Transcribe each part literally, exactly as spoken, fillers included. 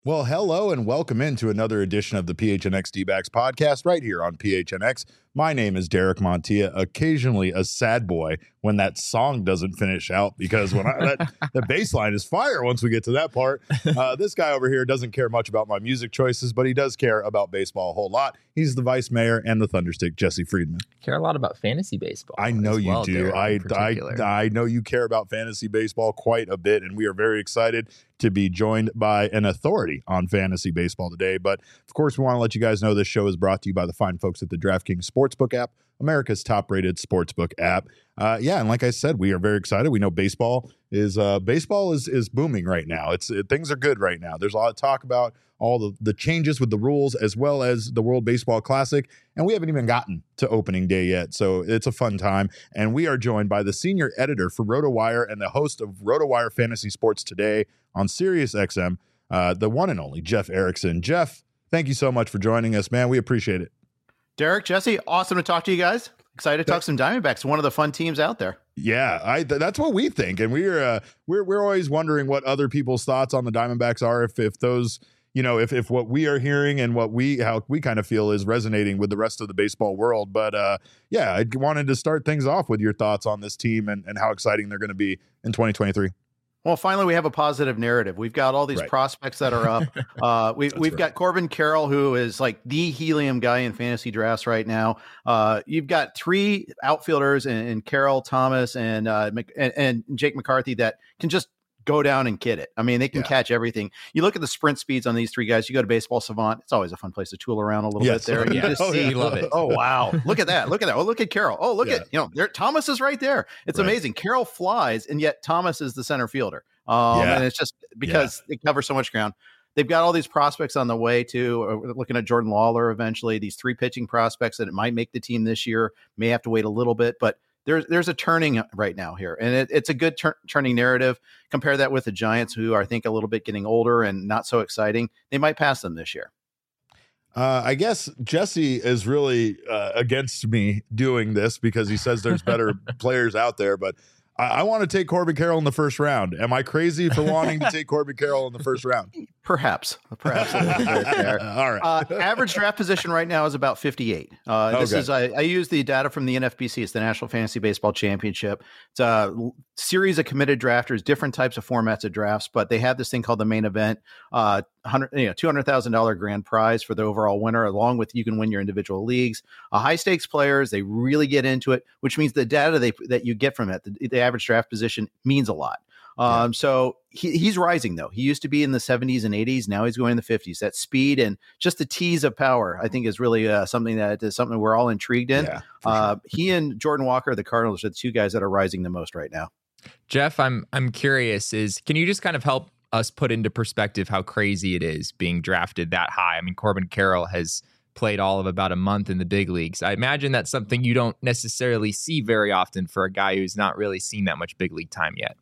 Well, hello and welcome into another edition of the P H N X D-Backs podcast right here on P H N X. My name is Derek Montilla, occasionally a sad boy when that song doesn't finish out because when I, that, the bass line is fire once we get to that part. Uh, this guy over here doesn't care much about my music choices, but he does care about baseball a whole lot. He's the vice mayor and the Thunderstick, Jesse Friedman. Care a lot about fantasy baseball. I know you well, do. I, I, I know you care about fantasy baseball quite a bit, and we are very excited to be joined by an authority on fantasy baseball today. But of course, we want to let you guys know this show is brought to you by the fine folks at the DraftKings Sportsbook app, America's top-rated sportsbook app. Uh, yeah, and like I said, we are very excited. We know baseball is uh, baseball is is booming right now. It's it, things are good right now. There's a lot of talk about all the, the changes with the rules as well as the World Baseball Classic, and we haven't even gotten to opening day yet. So it's a fun time, and we are joined by the senior editor for RotoWire and the host of RotoWire Fantasy Sports Today on Sirius X M, uh, the one and only Jeff Erickson. Jeff, thank you so much for joining us, man. We appreciate it. Derek, Jesse, awesome to talk to you guys. Excited to talk some Diamondbacks, one of the fun teams out there. Yeah, I th- that's what we think, and we're uh, we're we're always wondering what other people's thoughts on the Diamondbacks are. If if those, you know, if if what we are hearing and what we how we kind of feel is resonating with the rest of the baseball world. But uh, yeah, I wanted to start things off with your thoughts on this team and, and how exciting they're going to be in twenty twenty-three. Well, finally, we have a positive narrative. We've got all these right. prospects that are up. Uh, we, we've right. got Corbin Carroll, who is like the helium guy in fantasy drafts right now. Uh, you've got three outfielders in, in Carroll, Thomas, and, uh, and and Jake McCarthy that can just go down and kid it. I mean, they can yeah. catch everything. You look at the sprint speeds on these three guys. You go to Baseball Savant. It's always a fun place to tool around a little yes. bit there. And you just oh, see, yeah. love it. Oh, wow. Look at that. Look at that. Oh, look at Carroll. Oh, look yeah. at, you know, there, Thomas is right there. It's right. amazing. Carroll flies, and yet Thomas is the center fielder. Um, yeah. And it's just because yeah. they cover so much ground. They've got all these prospects on the way too. We're looking at Jordan Lawler eventually. These three pitching prospects that it might make the team this year. May have to wait a little bit, but there's there's a turning right now here, and it, it's a good tur- turning narrative. Compare that with the Giants, who are, I think, a little bit getting older and not so exciting. They might pass them this year. Uh, I guess Jesse is really uh, against me doing this because he says there's better players out there, but I, I want to take Corbin Carroll in the first round. Am I crazy for wanting to take Corbin Carroll in the first round? Perhaps, perhaps. A little bit there. All right. Uh, average draft position right now is about fifty-eight. Uh, this okay. is I, I use the data from the N F B C. It's the National Fantasy Baseball Championship. It's a series of committed drafters, different types of formats of drafts, but they have this thing called the main event. Uh, one hundred, you know, two hundred thousand dollars grand prize for the overall winner, along with you can win your individual leagues. Uh, high stakes players, they really get into it, which means the data they that you get from it, the, the average draft position means a lot. Um, yeah. So he, he's rising, though. He used to be in the seventies and eighties. Now he's going in the fifties. That speed and just the tease of power, I think, is really uh, something that is something we're all intrigued in. Yeah, uh, sure. He and Jordan Walker, the Cardinals, are the two guys that are rising the most right now. Jeff, I'm I'm curious. Is can you just kind of help us put into perspective how crazy it is being drafted that high? I mean, Corbin Carroll has played all of about a month in the big leagues. I imagine that's something you don't necessarily see very often for a guy who's not really seen that much big league time yet.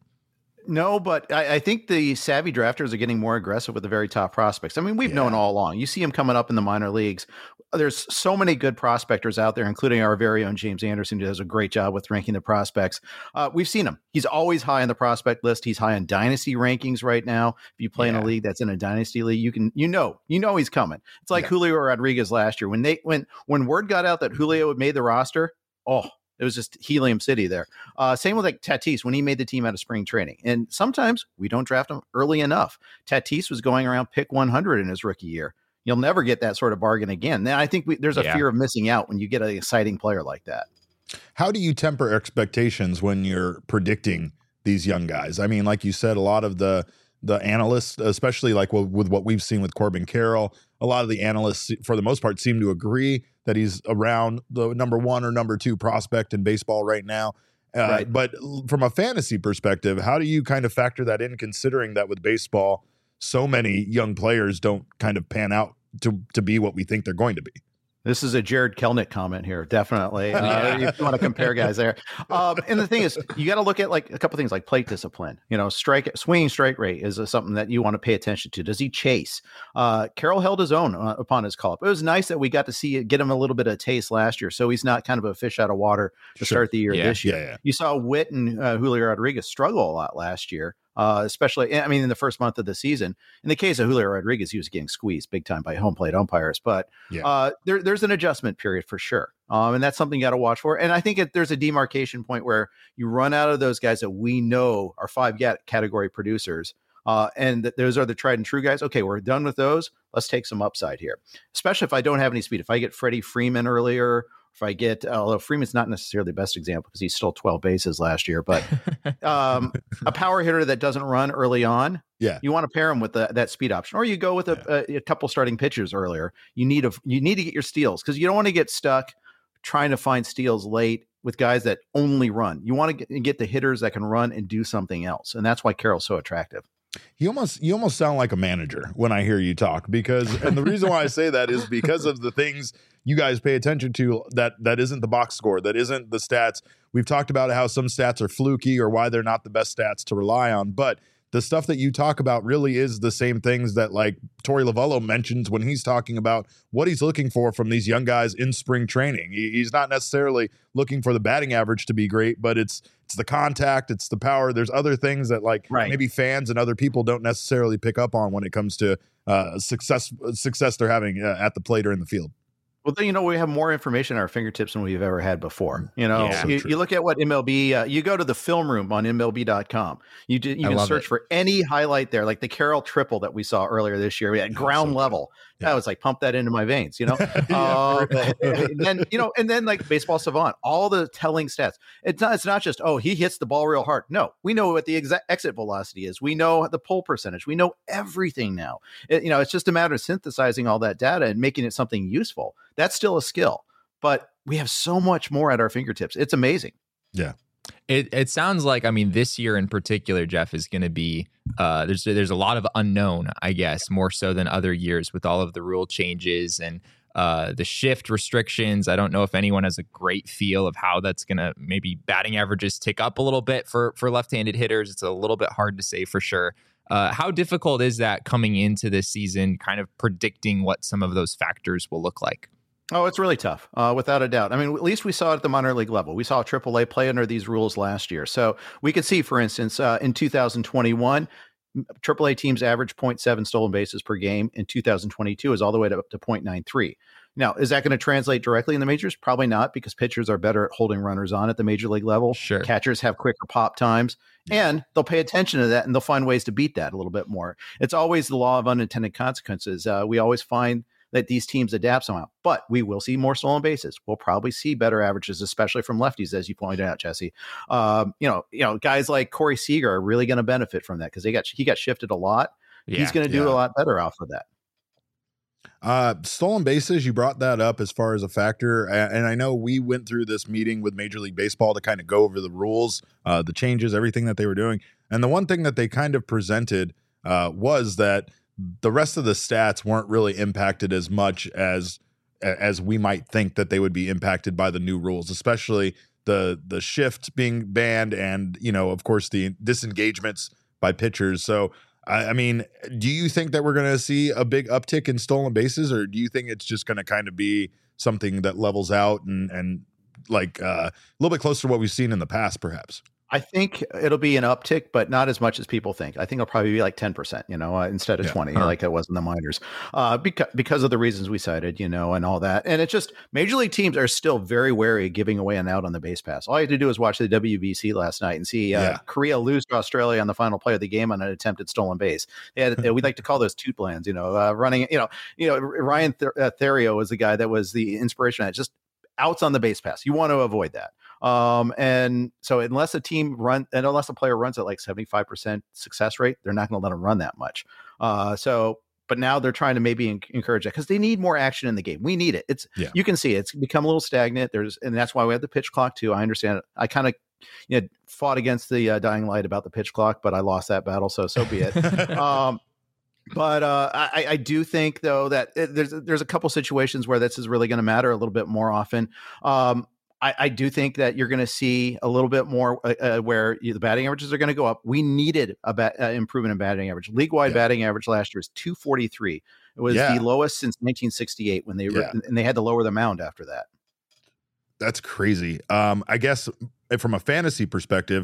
No, but I, I think the savvy drafters are getting more aggressive with the very top prospects. I mean, we've yeah. known all along. You see them coming up in the minor leagues. There's so many good prospectors out there, including our very own James Anderson, who does a great job with ranking the prospects. Uh, we've seen him. He's always high on the prospect list. He's high on dynasty rankings right now. If you play yeah. in a league that's in a dynasty league, you can, you know, you know he's coming. It's like yeah. Julio Rodriguez last year when they when when word got out that Julio had made the roster. Oh. It was just helium city there. Uh, same with like Tatis when he made the team out of spring training. And sometimes we don't draft him early enough. Tatis was going around pick one hundred in his rookie year. You'll never get that sort of bargain again. Now, I think we, there's a yeah. fear of missing out when you get an exciting player like that. How do you temper expectations when you're predicting these young guys? I mean, like you said, a lot of the the analysts, especially like with what we've seen with Corbin Carroll, a lot of the analysts, for the most part, seem to agree that he's around the number one or number two prospect in baseball right now. Uh, right. But from a fantasy perspective, how do you kind of factor that in, considering that with baseball, so many young players don't kind of pan out to, to be what we think they're going to be? This is a Jared Kelnick comment here, definitely. Uh, if you want to compare guys there. Um, and the thing is, you got to look at like a couple things like plate discipline. You know, strike swinging strike rate is uh, something that you want to pay attention to. Does he chase? Uh, Carroll held his own uh, upon his call up. It was nice that we got to see it, get him a little bit of taste last year, so he's not kind of a fish out of water to sure. start the year yeah, this year. Yeah, yeah. You saw Witt and uh, Julio Rodriguez struggle a lot last year. Uh, especially, I mean, in the first month of the season. In the case of Julio Rodriguez, he was getting squeezed big time by home plate umpires. But Yeah. uh, there, there's an adjustment period for sure. Um, and that's something you got to watch for. And I think it, there's a demarcation point where you run out of those guys that we know are five category producers. Uh, and th- those are the tried and true guys. Okay, we're done with those. Let's take some upside here, especially if I don't have any speed. If I get Freddie Freeman earlier, if I get, although Freeman's not necessarily the best example because he stole twelve bases last year, but um, a power hitter that doesn't run early on, yeah, you want to pair him with the, that speed option, or you go with a, yeah. a, a couple starting pitchers earlier. You need a, you need to get your steals because you don't want to get stuck trying to find steals late with guys that only run. You want to get, get the hitters that can run and do something else, and that's why Carroll's so attractive. You almost you almost sound like a manager when I hear you talk, because and the reason why I say that is because of the things you guys pay attention to that that isn't the box score, that isn't the stats. We've talked about how some stats are fluky or why they're not the best stats to rely on, but the stuff that you talk about really is the same things that like Torey Lovullo mentions when he's talking about what he's looking for from these young guys in spring training. He, he's not necessarily looking for the batting average to be great, but it's it's the contact, it's the power. There's other things that like right. maybe fans and other people don't necessarily pick up on when it comes to uh, success success they're having uh, at the plate or in the field. Well, then, you know, we have more information at our fingertips than we've ever had before. You know, Yeah. you, you look at what M L B, uh, you go to the film room on M L B dot com. You do, you I can love search it. for any highlight there, like the Carroll triple that we saw earlier this year at ground so level. Yeah. That was like, pump that into my veins, you know? Yeah, uh, right. and then, you know, and then like Baseball Savant, all the telling stats. It's not, it's not just, oh, he hits the ball real hard. No, we know what the exact exit velocity is. We know the pull percentage. We know everything now. It, you know, it's just a matter of synthesizing all that data and making it something useful. That's still a skill, but we have so much more at our fingertips. It's amazing. Yeah. It it sounds like, I mean, this year in particular, Jeff, is going to be uh, there's there's a lot of unknown, I guess, more so than other years with all of the rule changes and uh, the shift restrictions. I don't know if anyone has a great feel of how that's going to maybe batting averages tick up a little bit for for left-handed hitters. It's a little bit hard to say for sure. Uh, how difficult is that coming into this season, kind of predicting what some of those factors will look like? Oh, it's really tough, uh, without a doubt. I mean, at least we saw it at the minor league level. We saw triple A play under these rules last year. So we could see, for instance, uh, in two thousand twenty-one, triple A teams average zero point seven stolen bases per game. In two thousand twenty-two is all the way to, up to zero point nine three. Now, is that going to translate directly in the majors? Probably not, because pitchers are better at holding runners on at the major league level. Sure. Catchers have quicker pop times, and they'll pay attention to that, and they'll find ways to beat that a little bit more. It's always the law of unintended consequences. Uh, we always find that these teams adapt somehow, but we will see more stolen bases. We'll probably see better averages, especially from lefties, as you pointed out, Jesse. Um, you know, you know, guys like Corey Seager are really going to benefit from that because they got he got shifted a lot. Yeah, He's going to do yeah. a lot better off of that. Uh, stolen bases, you brought that up as far as a factor. a- And I know we went through this meeting with Major League Baseball to kind of go over the rules, uh, the changes, everything that they were doing. And the one thing that they kind of presented uh, was that the rest of the stats weren't really impacted as much as as we might think that they would be impacted by the new rules, especially the the shift being banned and, you know, of course, the disengagements by pitchers. So, I, I mean, do you think that we're going to see a big uptick in stolen bases, or do you think it's just going to kind of be something that levels out and, and like uh, a little bit closer to what we've seen in the past, perhaps? I think it'll be an uptick, but not as much as people think. I think it'll probably be like ten percent, you know, uh, instead of Yeah. twenty, Huh. like it was in the minors, uh, because, because of the reasons we cited, you know, and all that. And it's just major league teams are still very wary of giving away an out on the base pass. All you had to do was watch the W B C last night and see uh, Yeah. Korea lose to Australia on the final play of the game on an attempted stolen base. They had, we like to call those toot plans, you know, uh, running, you know, you know, Ryan Th- uh, Therio was the guy that was the inspiration. That just outs on the base pass. You want to avoid that. Um, and so unless a team run and unless a player runs at like seventy-five percent success rate, they're not going to let them run that much. Uh, so, but now they're trying to maybe en- encourage that because they need more action in the game. We need it. It's, Yeah. you can see it's become a little stagnant. There's, and that's why we have the pitch clock too. I understand it. I kind of, you know, fought against the uh, dying light about the pitch clock, but I lost that battle. So, so be it. um, But uh, I, I do think, though, that it, there's there's a couple situations where this is really going to matter a little bit more often. Um, I, I do think that you're going to see a little bit more uh, uh, where you, the batting averages are going to go up. We needed a bat, uh, improvement in batting average. League-wide Yeah. batting average last year is two forty-three. It was Yeah. the lowest since nineteen sixty-eight when they were, Yeah. and they had to lower the mound after that. That's crazy. Um, I guess from a fantasy perspective,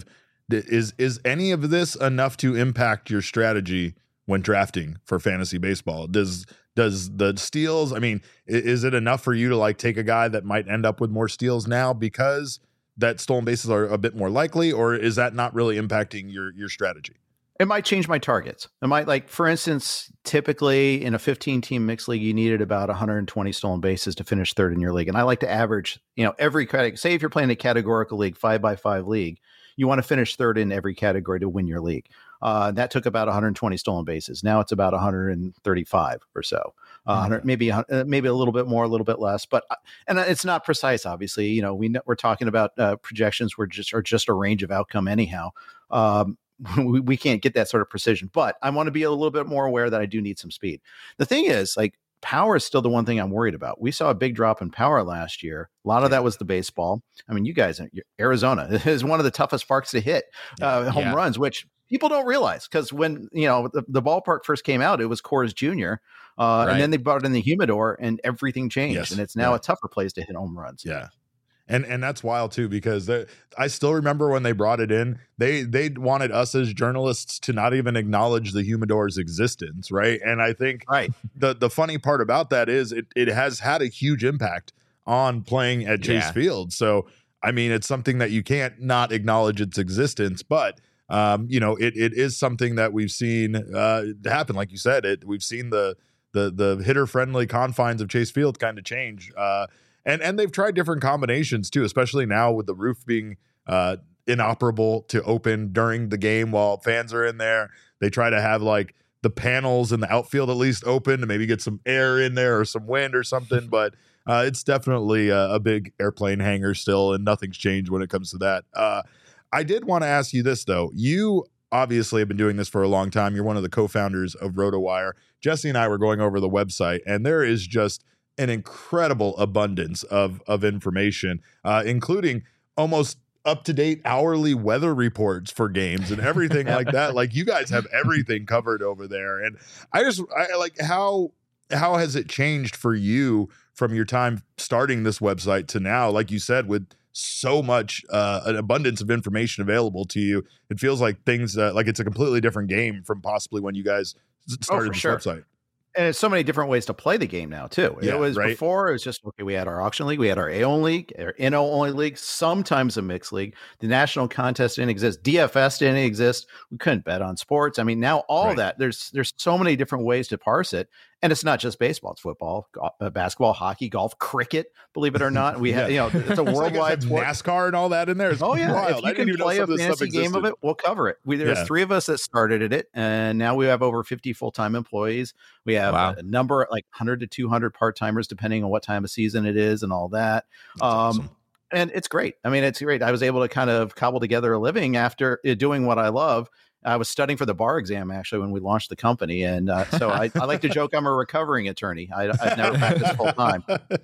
is is any of this enough to impact your strategy when drafting for fantasy baseball? Does does the steals, I mean, is it enough for you to like take a guy that might end up with more steals now because that stolen bases are a bit more likely, or is that not really impacting your your strategy? It might change my targets. It might, like, for instance, typically in a fifteen team mixed league, you needed about one hundred twenty stolen bases to finish third in your league. And I like to average, you know, every category. Say if you're playing a categorical league, five by five league, you want to finish third in every category to win your league. Uh, that took about one hundred twenty stolen bases. Now it's about one hundred thirty-five or so. Uh, mm-hmm. Maybe uh, maybe a little bit more, a little bit less, but and it's not precise. Obviously, you know, we know, we're talking about uh, projections. We're just are just a range of outcome anyhow. Um, we, we can't get that sort of precision, but I want to be a little bit more aware that I do need some speed. The thing is, like, power is still the one thing I'm worried about. We saw a big drop in power last year. A lot of that was the baseball. I mean, you guys, Arizona is one of the toughest parks to hit uh, home yeah. runs, which people don't realize, because when, you know, the, the ballpark first came out, it was Coors Junior Uh, right. And then they brought in the humidor and everything changed. Yes. And it's now yeah. a tougher place to hit home runs. Yeah. And and that's wild too, because I still remember when they brought it in, they they wanted us as journalists to not even acknowledge the humidor's existence, right? And I think right. the the funny part about that is it it has had a huge impact on playing at Chase yeah. Field. So I mean, it's something that you can't not acknowledge its existence, but um, you know, it it is something that we've seen uh, happen. Like you said, it we've seen the the the hitter friendly confines of Chase Field kind of change. Uh, And and they've tried different combinations too, especially now with the roof being uh, inoperable to open during the game while fans are in there. They try to have like the panels in the outfield at least open to maybe get some air in there or some wind or something. But uh, it's definitely a, a big airplane hangar still, and nothing's changed when it comes to that. Uh, I did want to ask you this though. You obviously have been doing this for a long time. You're one of the co-founders of RotoWire. Jesse and I were going over the website, and there is just an incredible abundance of of information, uh, including almost up-to-date hourly weather reports for games and everything like that. Like, you guys have everything covered over there. And I just I like how how has it changed for you from your time starting this website to now? Like you said, with so much uh, an abundance of information available to you, it feels like things uh, like it's a completely different game from possibly when you guys started oh, this sure. website. And it's so many different ways to play the game now, too. Yeah, it was right? before, it was just, okay, we had our auction league, we had our A O league, our N O only league, sometimes a mixed league. The national contest didn't exist. D F S didn't exist. We couldn't bet on sports. I mean, now all right. that, there's there's so many different ways to parse it. And it's not just baseball, it's football, go- uh, basketball, hockey, golf, cricket, believe it or not. We have, yeah. you know, it's a worldwide sport. NASCAR and all that in there. It's oh, yeah. wild. If you I can didn't play even know a fantasy game of it, we'll cover it. We, there's yeah. three of us that started it, and now we have over fifty full-time employees. We have wow. a number, like one hundred to two hundred part-timers, depending on what time of season it is and all that. That's um, awesome. And it's great. I mean, it's great. I was able to kind of cobble together a living after uh, doing what I love. I was studying for the bar exam, actually, when we launched the company. And uh, so I, I like to joke I'm a recovering attorney. I, I've never practiced full time.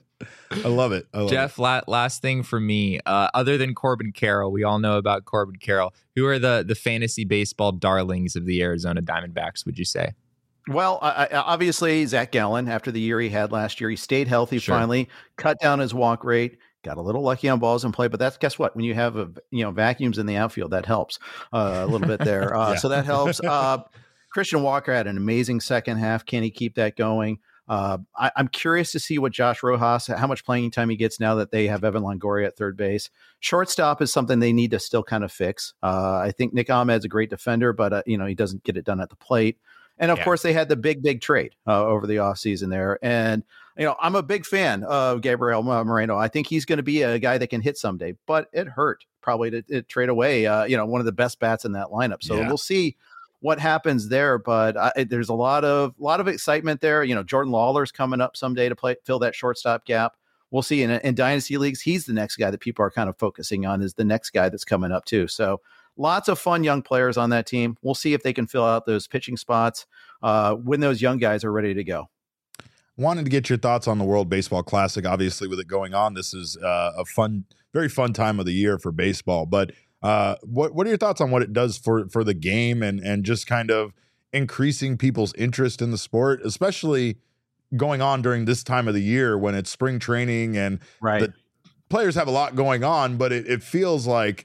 I love it. I love Jeff, it. La- last thing for me, uh, other than Corbin Carroll, we all know about Corbin Carroll. Who are the, the fantasy baseball darlings of the Arizona Diamondbacks, would you say? Well, I, I, obviously, Zach Gallen, after the year he had last year, he stayed healthy Sure. finally, cut down his walk rate, got a little lucky on balls in play. But that's, guess what? When you have, a, you know, vacuums in the outfield, that helps uh, a little bit there. Uh, Yeah. So that helps. Uh, Christian Walker had an amazing second half. Can he keep that going? Uh, I, I'm curious to see what Josh Rojas, how much playing time he gets now that they have Evan Longoria at third base. Shortstop is something they need to still kind of fix. Uh, I think Nick Ahmed's a great defender, but, uh, you know, he doesn't get it done at the plate. And of Yeah. course, they had the big, big trade uh, over the offseason there. And, you know, I'm a big fan of Gabriel Moreno. I think he's going to be a guy that can hit someday, but it hurt probably to, to trade away, uh, you know, one of the best bats in that lineup. So Yeah. we'll see what happens there. But I, there's a lot of lot of excitement there. You know, Jordan Lawler's coming up someday to play fill that shortstop gap. We'll see. In, in dynasty leagues, he's the next guy that people are kind of focusing on, is the next guy that's coming up too. So lots of fun young players on that team. We'll see if they can fill out those pitching spots uh, when those young guys are ready to go. Wanted to get your thoughts on the World Baseball Classic. Obviously, with it going on, this is uh, a fun, very fun time of the year for baseball. But uh, what what are your thoughts on what it does for for the game and and just kind of increasing people's interest in the sport, especially going on during this time of the year when it's spring training and Right. the players have a lot going on, but it, it feels like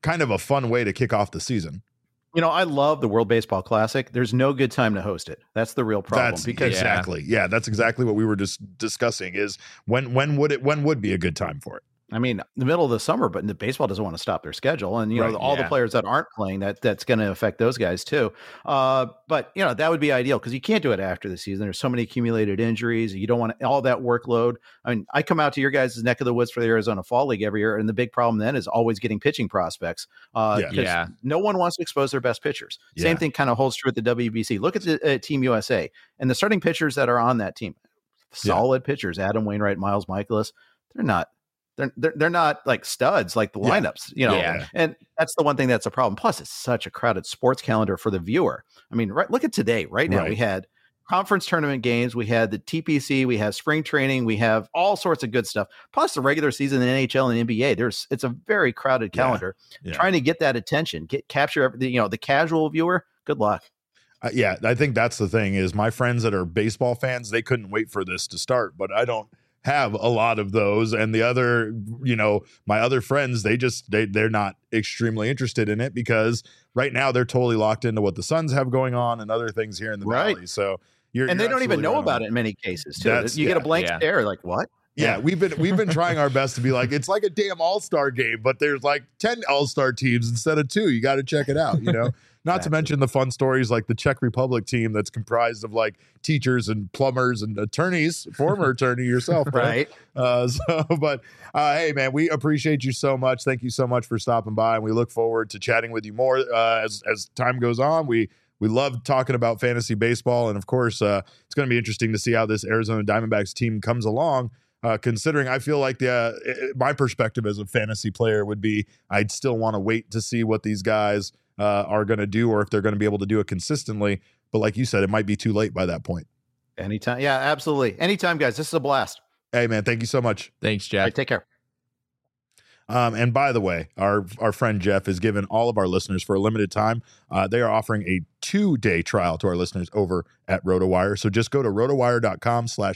kind of a fun way to kick off the season. You know, I love the World Baseball Classic. There's no good time to host it. That's the real problem. That's because exactly. Yeah. yeah, that's exactly what we were just discussing is when when would it when would be a good time for it? I mean, the middle of the summer, but the baseball doesn't want to stop their schedule. And, you know, Right, all yeah. the players that aren't playing, that that's going to affect those guys too. Uh, but, you know, that would be ideal because you can't do it after the season. There's so many accumulated injuries. You don't want all that workload. I mean, I come out to your guys' neck of the woods for the Arizona Fall League every year. And the big problem then is always getting pitching prospects. Uh, Yeah. 'cause Yeah. no one wants to expose their best pitchers. Yeah. Same thing kind of holds true at the W B C. Look at the uh, Team U S A and the starting pitchers that are on that team. Solid pitchers, Adam Wainwright, Miles Michaelis. They're not. They're, they're they're not like studs like the Yeah. lineups, you know, Yeah. and that's the one thing that's a problem. Plus, it's such a crowded sports calendar for the viewer. I mean, right, look at today. Right now, Right. we had conference tournament games, we had the T P C, we have spring training, we have all sorts of good stuff. Plus, the regular season in N H L and N B A. There's it's a very crowded Yeah. calendar. Yeah. Trying to get that attention, get capture every, you know, the casual viewer. Good luck. Uh, yeah, I think that's the thing is my friends that are baseball fans, they couldn't wait for this to start, but I don't have a lot of those. And the other, you know, my other friends, they just, they, they're not extremely interested in it because right now they're totally locked into what the Suns have going on and other things here in the Right. Valley. So you're, And you're they don't even absolutely know right about on. it in many cases too. That's- You get a yeah. blank Yeah. stare, like what? Yeah, we've been we've been trying our best to be like it's like a damn all-star game, but there's like ten all-star teams instead of two. You got to check it out, you know. Not to Exactly. mention the fun stories like the Czech Republic team that's comprised of like teachers and plumbers and attorneys, former attorney yourself, bro. Right. Uh, so, but uh, hey, man, we appreciate you so much. Thank you so much for stopping by, and we look forward to chatting with you more uh, as as time goes on. We we love talking about fantasy baseball, and of course, uh, it's going to be interesting to see how this Arizona Diamondbacks team comes along. Uh, considering I feel like the uh, it- my perspective as a fantasy player would be I'd still want to wait to see what these guys uh, are going to do or if they're going to be able to do it consistently. But like you said, it might be too late by that point. Anytime. Yeah, absolutely. Anytime, guys. This is a blast. Hey, man, thank you so much. Thanks, All Jeff. right, take care. Um, and by the way, our our friend Jeff has given all of our listeners for a limited time. Uh, they are offering a two day trial to our listeners over at RotoWire. So just go to rotowire.com slash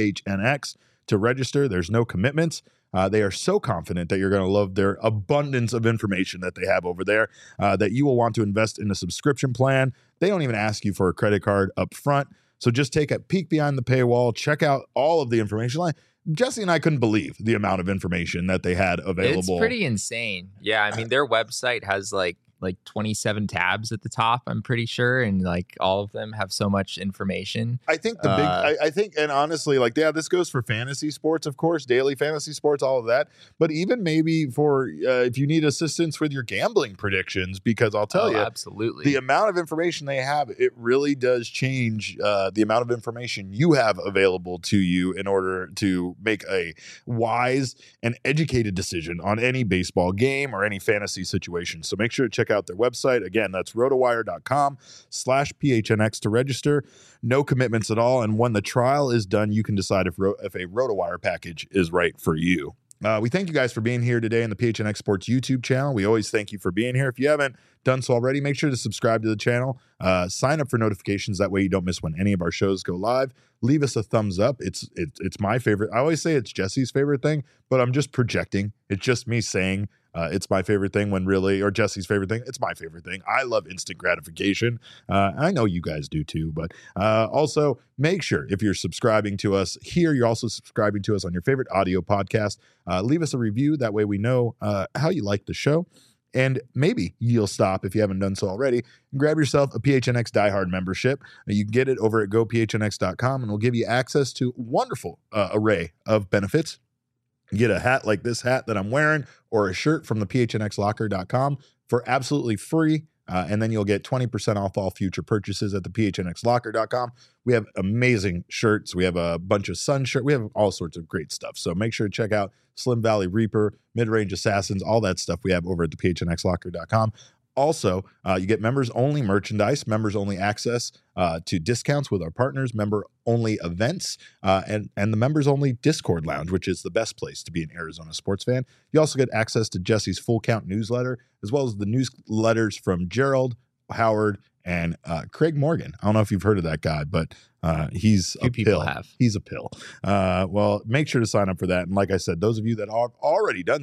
PHNX to register. There's no commitments. Uh, they are so confident that you're going to love their abundance of information that they have over there uh, that you will want to invest in a subscription plan. They don't even ask you for a credit card up front. So just take a peek behind the paywall, check out all of the information. Like Jesse and I couldn't believe the amount of information that they had available. It's pretty insane. Yeah, I mean their website has like like twenty-seven tabs at the top, I'm pretty sure, and like all of them have so much information. I think the big, Uh, I, I think, and honestly, like, yeah, this goes for fantasy sports, of course, daily fantasy sports, all of that. But even maybe for uh, if you need assistance with your gambling predictions, because I'll tell Oh, you, absolutely. the amount of information they have, it really does change uh, the amount of information you have available to you in order to make a wise and educated decision on any baseball game or any fantasy situation. So make sure to check out their website. Again, that's rotowire.com slash PHNX to register. No commitments at all. And when the trial is done, you can decide if, ro- if a RotoWire package is right for you. Uh, we thank you guys for being here today in the P H N X Sports YouTube channel. We always thank you for being here. If you haven't done so already, make sure to subscribe to the channel. Uh, sign up for notifications. That way you don't miss when any of our shows go live. Leave us a thumbs up. It's it, it's my favorite. I always say it's Jesse's favorite thing, but I'm just projecting. It's just me saying uh, it's my favorite thing when really, or Jesse's favorite thing. It's my favorite thing. I love instant gratification. Uh, I know you guys do too, but uh, also make sure if you're subscribing to us here, you're also subscribing to us on your favorite audio podcast. Uh, leave us a review. That way we know uh, how you like the show. And maybe you'll stop if you haven't done so already and grab yourself a P H N X Diehard membership. You can get it over at go p h n x dot com and we'll give you access to a wonderful uh, array of benefits. You get a hat like this hat that I'm wearing or a shirt from the p h n x locker dot com for absolutely free. Uh, and then you'll get twenty percent off all future purchases at the p h n x locker dot com. We have amazing shirts. We have a bunch of sun shirts. We have all sorts of great stuff. So make sure to check out Slim Valley Reaper, Mid-Range Assassins, all that stuff we have over at the p h n x locker dot com. Also, uh, you get members-only merchandise, members-only access uh, to discounts with our partners, member-only events, uh, and, and the members-only Discord lounge, which is the best place to be an Arizona sports fan. You also get access to Jesse's Full Count newsletter, as well as the newsletters from Gerald, Howard, and uh, Craig Morgan. I don't know if you've heard of that guy, but uh, he's Few a people pill. have. He's a pill. Uh, well, make sure to sign up for that. And like I said, those of you that have already done so,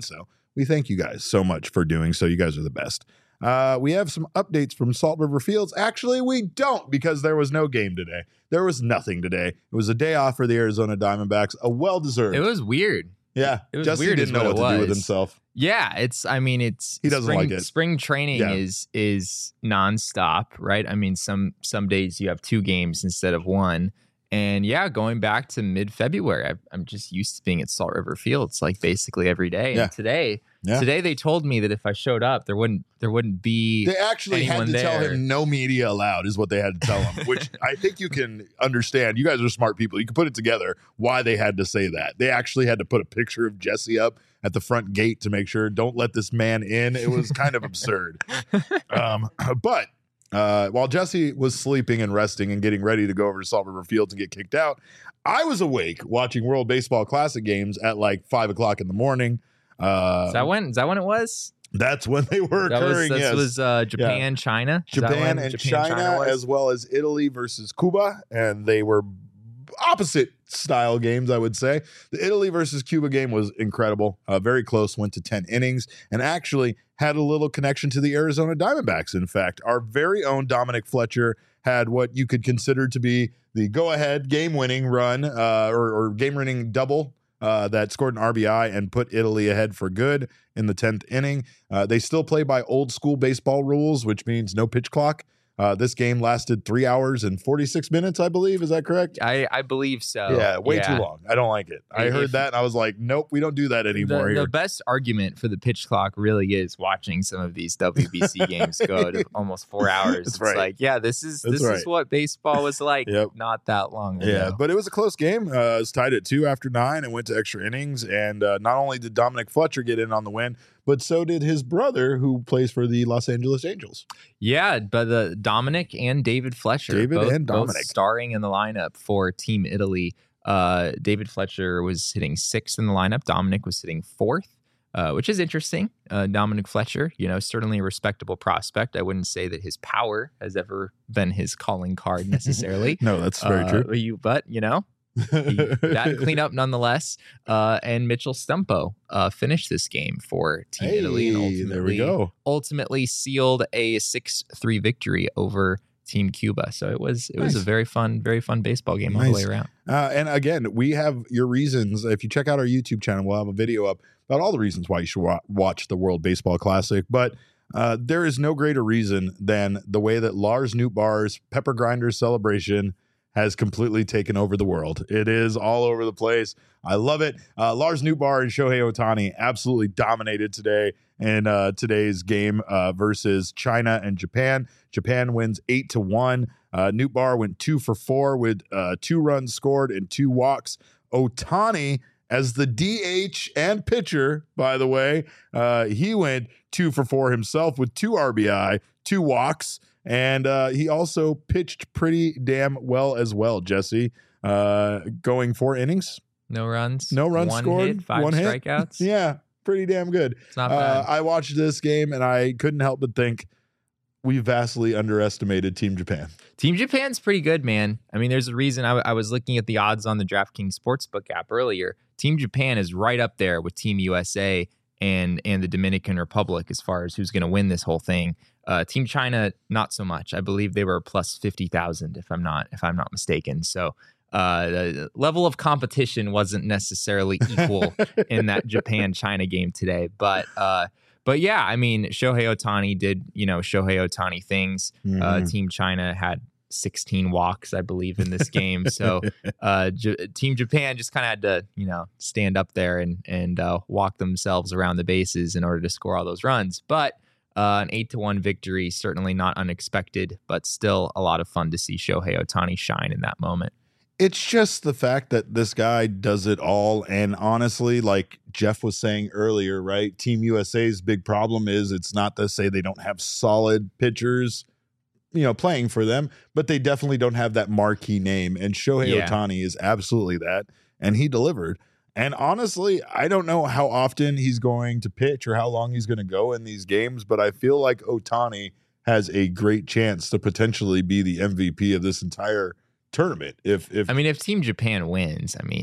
we thank you guys so much for doing so. You guys are the best. Uh, we have some updates from Salt River Fields. Actually, we don't, because there was no game today. There was nothing today. It was a day off for the Arizona Diamondbacks, a well-deserved. It was weird. Yeah, it was Jesse weird didn't know what, what to do with himself. Yeah, it's. I mean, it's. He doesn't spring, like it. Spring training yeah. is is nonstop, right? I mean, some some days you have two games instead of one. And yeah, going back to mid-February, I, I'm just used to being at Salt River Fields like basically every day. Yeah. And today, yeah. today they told me that if I showed up, there wouldn't there wouldn't be. They actually had to there. tell him no media allowed, is what they had to tell him. Which I think you can understand. You guys are smart people. You can put it together why they had to say that. They actually had to put a picture of Jesse up at the front gate to make sure don't let this man in. It was kind of absurd. Um, but. Uh, while Jesse was sleeping and resting and getting ready to go over to Salt River Fields and get kicked out, I was awake watching World Baseball Classic games at like five o'clock in the morning. Uh, is that when? Is that when it was? That's when they were that occurring. Was, this yes. was uh, Japan, yeah. China, is Japan and Japan, China, China as well as Italy versus Cuba, and they were opposite style games, I would say. The Italy versus Cuba game was incredible, uh, very close, went to ten innings, and actually had a little connection to the Arizona Diamondbacks. In fact, our very own Dominic Fletcher had what you could consider to be the go-ahead game-winning run uh, or, or game-winning double uh, that scored an R B I and put Italy ahead for good in the tenth inning. Uh, they still play by old-school baseball rules, which means no pitch clock. Uh, this game lasted three hours and forty-six minutes, I believe. Is that correct? I, I believe so. Yeah, way yeah. too long. I don't like it. I If, heard that and I was like, nope, we don't do that anymore the, here. The best argument for the pitch clock really is watching some of these W B C games go to almost four hours. That's it's right. like, yeah, this is That's this right. is what baseball was like Yep. not that long ago. Yeah, but it was a close game. Uh, it was tied at two after nine and went to extra innings. And uh, not only did Dominic Fletcher get in on the win, but so did his brother, who plays for the Los Angeles Angels. Yeah, but the Dominic and David Fletcher, David both, and Dominic, both starring in the lineup for Team Italy. Uh, David Fletcher was hitting sixth in the lineup. Dominic was hitting fourth, uh, which is interesting. Uh, Dominic Fletcher, you know, certainly a respectable prospect. I wouldn't say that his power has ever been his calling card necessarily. No, that's very uh, true. You, but you know. he, that cleanup nonetheless. Uh, and Mitchell Stumpo uh, finished this game for Team hey, Italy and ultimately, there we go. ultimately sealed a six three victory over Team Cuba. So it was it Nice. was a very fun, very fun baseball game Nice. all the way around. Uh, and again, we have your reasons. If you check out our YouTube channel, we'll have a video up about all the reasons why you should wa- watch the World Baseball Classic. But uh, there is no greater reason than the way that Lars Nootbaar's Pepper Grinders celebration has completely taken over the world. It is all over the place. I love it. Uh, Lars Nootbaar and Shohei Ohtani absolutely dominated today in uh, today's game uh, versus China and Japan. Japan wins eight to one. Uh, Nootbaar went two for four with uh, two runs scored and two walks. Ohtani, as the D H and pitcher, by the way, uh, he went two for four himself with two R B I, two walks. And uh, he also pitched pretty damn well as well, Jesse. Uh, going four innings. No runs. No runs one scored. Hit, five one strikeouts. Hit. Yeah, pretty damn good. It's not Uh, bad. I watched this game and I couldn't help but think we vastly underestimated Team Japan. Team Japan's pretty good, man. I mean, there's a reason I, I was looking at the odds on the DraftKings Sportsbook app earlier. Team Japan is right up there with Team U S A and and the Dominican Republic as far as who's going to win this whole thing. Uh, Team China, not so much. I believe they were plus fifty thousand, if I'm not if I'm not mistaken. So uh, the level of competition wasn't necessarily equal in that Japan-China game today. But uh, but yeah, I mean, Shohei Ohtani did you know Shohei Ohtani things. Mm-hmm. Uh, Team China had sixteen walks, I believe, in this game. So uh, J- Team Japan just kind of had to, you know, stand up there and and uh, walk themselves around the bases in order to score all those runs. But uh, an eight to one victory, certainly not unexpected, but still a lot of fun to see Shohei Ohtani shine in that moment. It's just the fact that this guy does it all. And honestly, like Jeff was saying earlier, right? Team U S A's big problem is it's not to say they don't have solid pitchers, you know, playing for them, but they definitely don't have that marquee name. And Shohei Yeah. Ohtani is absolutely that. And he delivered. And honestly, I don't know how often he's going to pitch or how long he's going to go in these games, but I feel like Ohtani has a great chance to potentially be the M V P of this entire tournament. If if I mean, if Team Japan wins, I mean,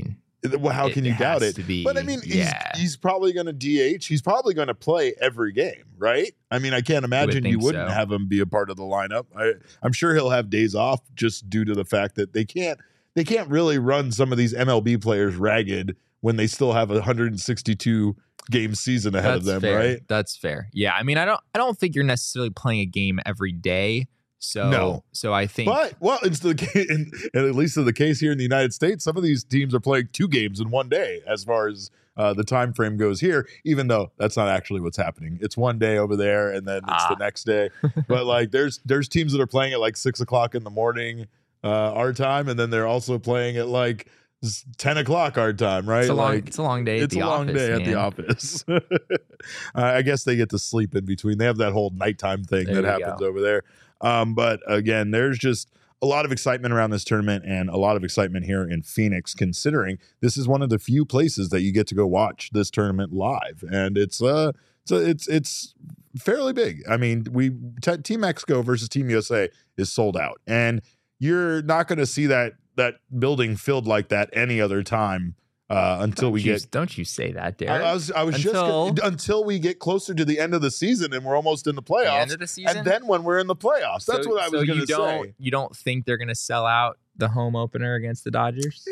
Well, how It can you doubt has it? to be, But I mean, yeah. he's, he's probably going to D H. He's probably going to play every game, right? I mean, I can't imagine you think wouldn't so. have him be a part of the lineup. I, I'm sure he'll have days off just due to the fact that they can't they can't really run some of these M L B players ragged when they still have a one hundred sixty-two game season ahead That's of them, fair. right? That's fair. Yeah, I mean, I don't I don't think you're necessarily playing a game every day. So No. so I think But well, it's the ca- in, at least in the case here in the United States, some of these teams are playing two games in one day as far as uh, the time frame goes here. Even though that's not actually what's happening, it's one day over there and then it's Ah. the next day. But like, there's there's teams that are playing at like six o'clock in the morning uh, our time, and then they're also playing at like s- ten o'clock our time, right? it's a long like, it's a long day at it's the a long office. day at the man. office. uh, I guess they get to sleep in between. They have that whole nighttime thing There that you happens go. over there. Um, but again, there's just a lot of excitement around this tournament and a lot of excitement here in Phoenix, considering this is one of the few places that you get to go watch this tournament live. And it's uh it's it's, it's fairly big. I mean, we t- Team Mexico versus Team U S A is sold out. And you're not going to see that that building filled like that any other time uh, until Don't we you, get. don't you say that, Derek? I, I was I was Until- just gonna, until we get closer to the end of the season and we're almost in the the playoffs. end of the season. And then when we're in the playoffs, that's So- what I was so going you to don't say. you don't think they're gonna sell out the home opener against the Dodgers?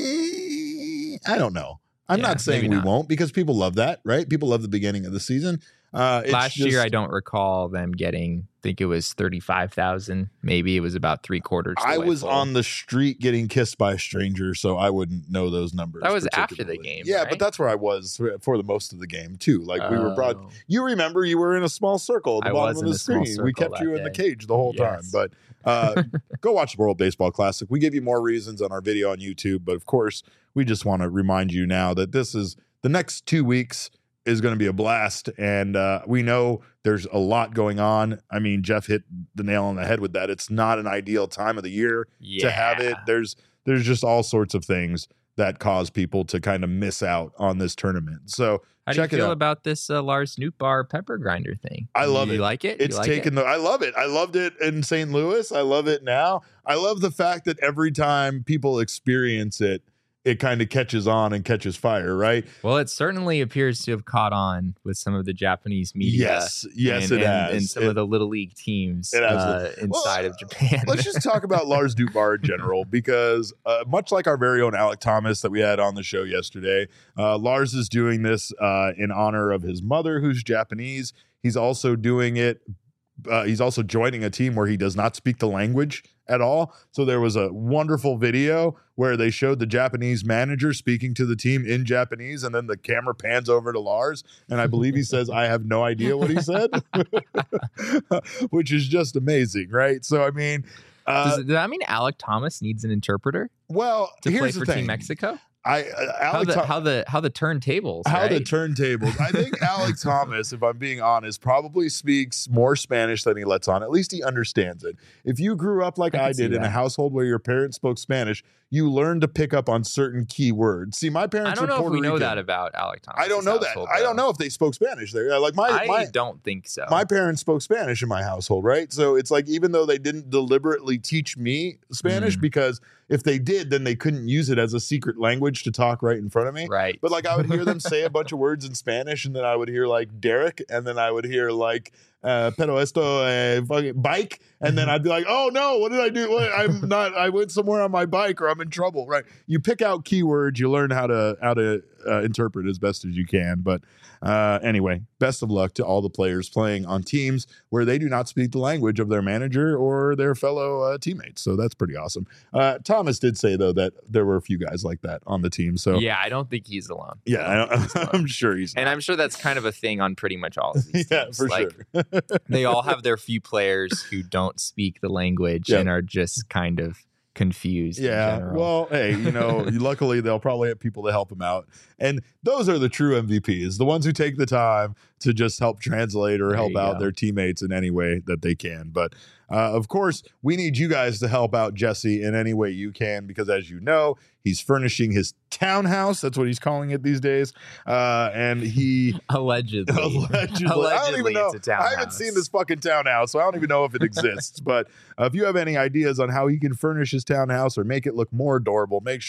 Eh, I don't know. I'm Yeah, not saying maybe we not. won't because people love that, right? People love the beginning of the season. Uh, it's Last just- year, I don't recall them getting. I think it was thirty-five thousand. Maybe it was about three quarters. the I way was full. on the street getting kissed by a stranger, so I wouldn't know those numbers. That was after the particularly. game, Yeah, right? but that's where I was for, for the most of the game too. Like we were broad. Oh. You remember you were in a small circle at the I bottom was of in the a small screen. We circle kept that you in the day. cage the whole time. Yes. But uh, go watch the World Baseball Classic. We give you more reasons on our video on YouTube, but of course, we just want to remind you now that this is the next two weeks is going to be a blast, and uh, we know there's a lot going on. I mean, Jeff hit the nail on the head with that. It's not an ideal time of the year Yeah. to have it. There's there's just all sorts of things that cause people to kind of miss out on this tournament. So How do check you it feel out. about this uh, Lars Nootbaar pepper grinder thing? I love you it. like it? It's you like taken it? the I love it. I loved it in Saint Louis. I love it now. I love the fact that every time people experience it, it kind of catches on and catches fire, right? Well, it certainly appears to have caught on with some of the Japanese media. Yes, yes, and, it and, has. and some It- of the little league teams It has. uh, inside Well, of Japan. Let's just talk about Lars Nootbaar in general, because uh, much like our very own Alec Thomas that we had on the show yesterday, uh, Lars is doing this uh, in honor of his mother, who's Japanese. He's also doing it. Uh, he's also joining a team where he does not speak the language at all. So there was a wonderful video where they showed the Japanese manager speaking to the team in Japanese, and then the camera pans over to Lars, and I believe he says, "I have no idea what he said," which is just amazing, right? So I mean, uh, does, does that mean Alec Thomas needs an interpreter well, to here's play the for thing. Team Mexico? I uh, How Alec the, Thom- how the how the turntables? how the right? turntables. I think Alec Thomas, if I'm being honest, probably speaks more Spanish than he lets on. At least he understands it. If you grew up like I I, can see did in a that. household where your parents spoke Spanish, you learn to pick up on certain key words. See, my parents I don't are know Puerto if we know Rican. that about Alec Thomas. I don't know that. I don't know if they spoke Spanish there. Uh, Like my I my don't think so. my parents spoke Spanish in my household, right? So it's like, even though they didn't deliberately teach me Spanish, Mm. because if they did, then they couldn't use it as a secret language to talk right in front of me. right. But like, I would hear them say a bunch of words in Spanish, and then I would hear like Derek, and then I would hear like uh, "pero esto eh, fucking bike," and then I'd be like, "Oh no, what did I do? What, I'm not. I went somewhere on my bike, or I'm in trouble." Right? You pick out keywords, you learn how to how to uh, interpret as best as you can. But uh, anyway, best of luck to all the players playing on teams where they do not speak the language of their manager or their fellow uh, teammates. So that's pretty awesome. Uh, Thomas did say though that there were a few guys like that on the team. So yeah, I don't think he's alone. yeah, I don't, I'm sure he's. And I'm sure that's kind of a thing on pretty much all of these yeah, teams. for like, sure. they all have their few players who don't speak the language Yep. and are just kind of confused. in Yeah. general. Well, hey, you know, luckily they'll probably have people to help them out. And those are the true M V Ps, the ones who take the time to just help translate or There help you out go. their teammates in any way that they can. But uh, of course, we need you guys to help out Jesse in any way you can, because as you know, he's furnishing his townhouse. That's what he's calling it these days. Uh, and he allegedly, allegedly, I don't Allegedly, even know. it's a I haven't townhouse. seen this fucking townhouse, so I don't even know if it exists. But uh, if you have any ideas on how he can furnish his townhouse or make it look more adorable, make sure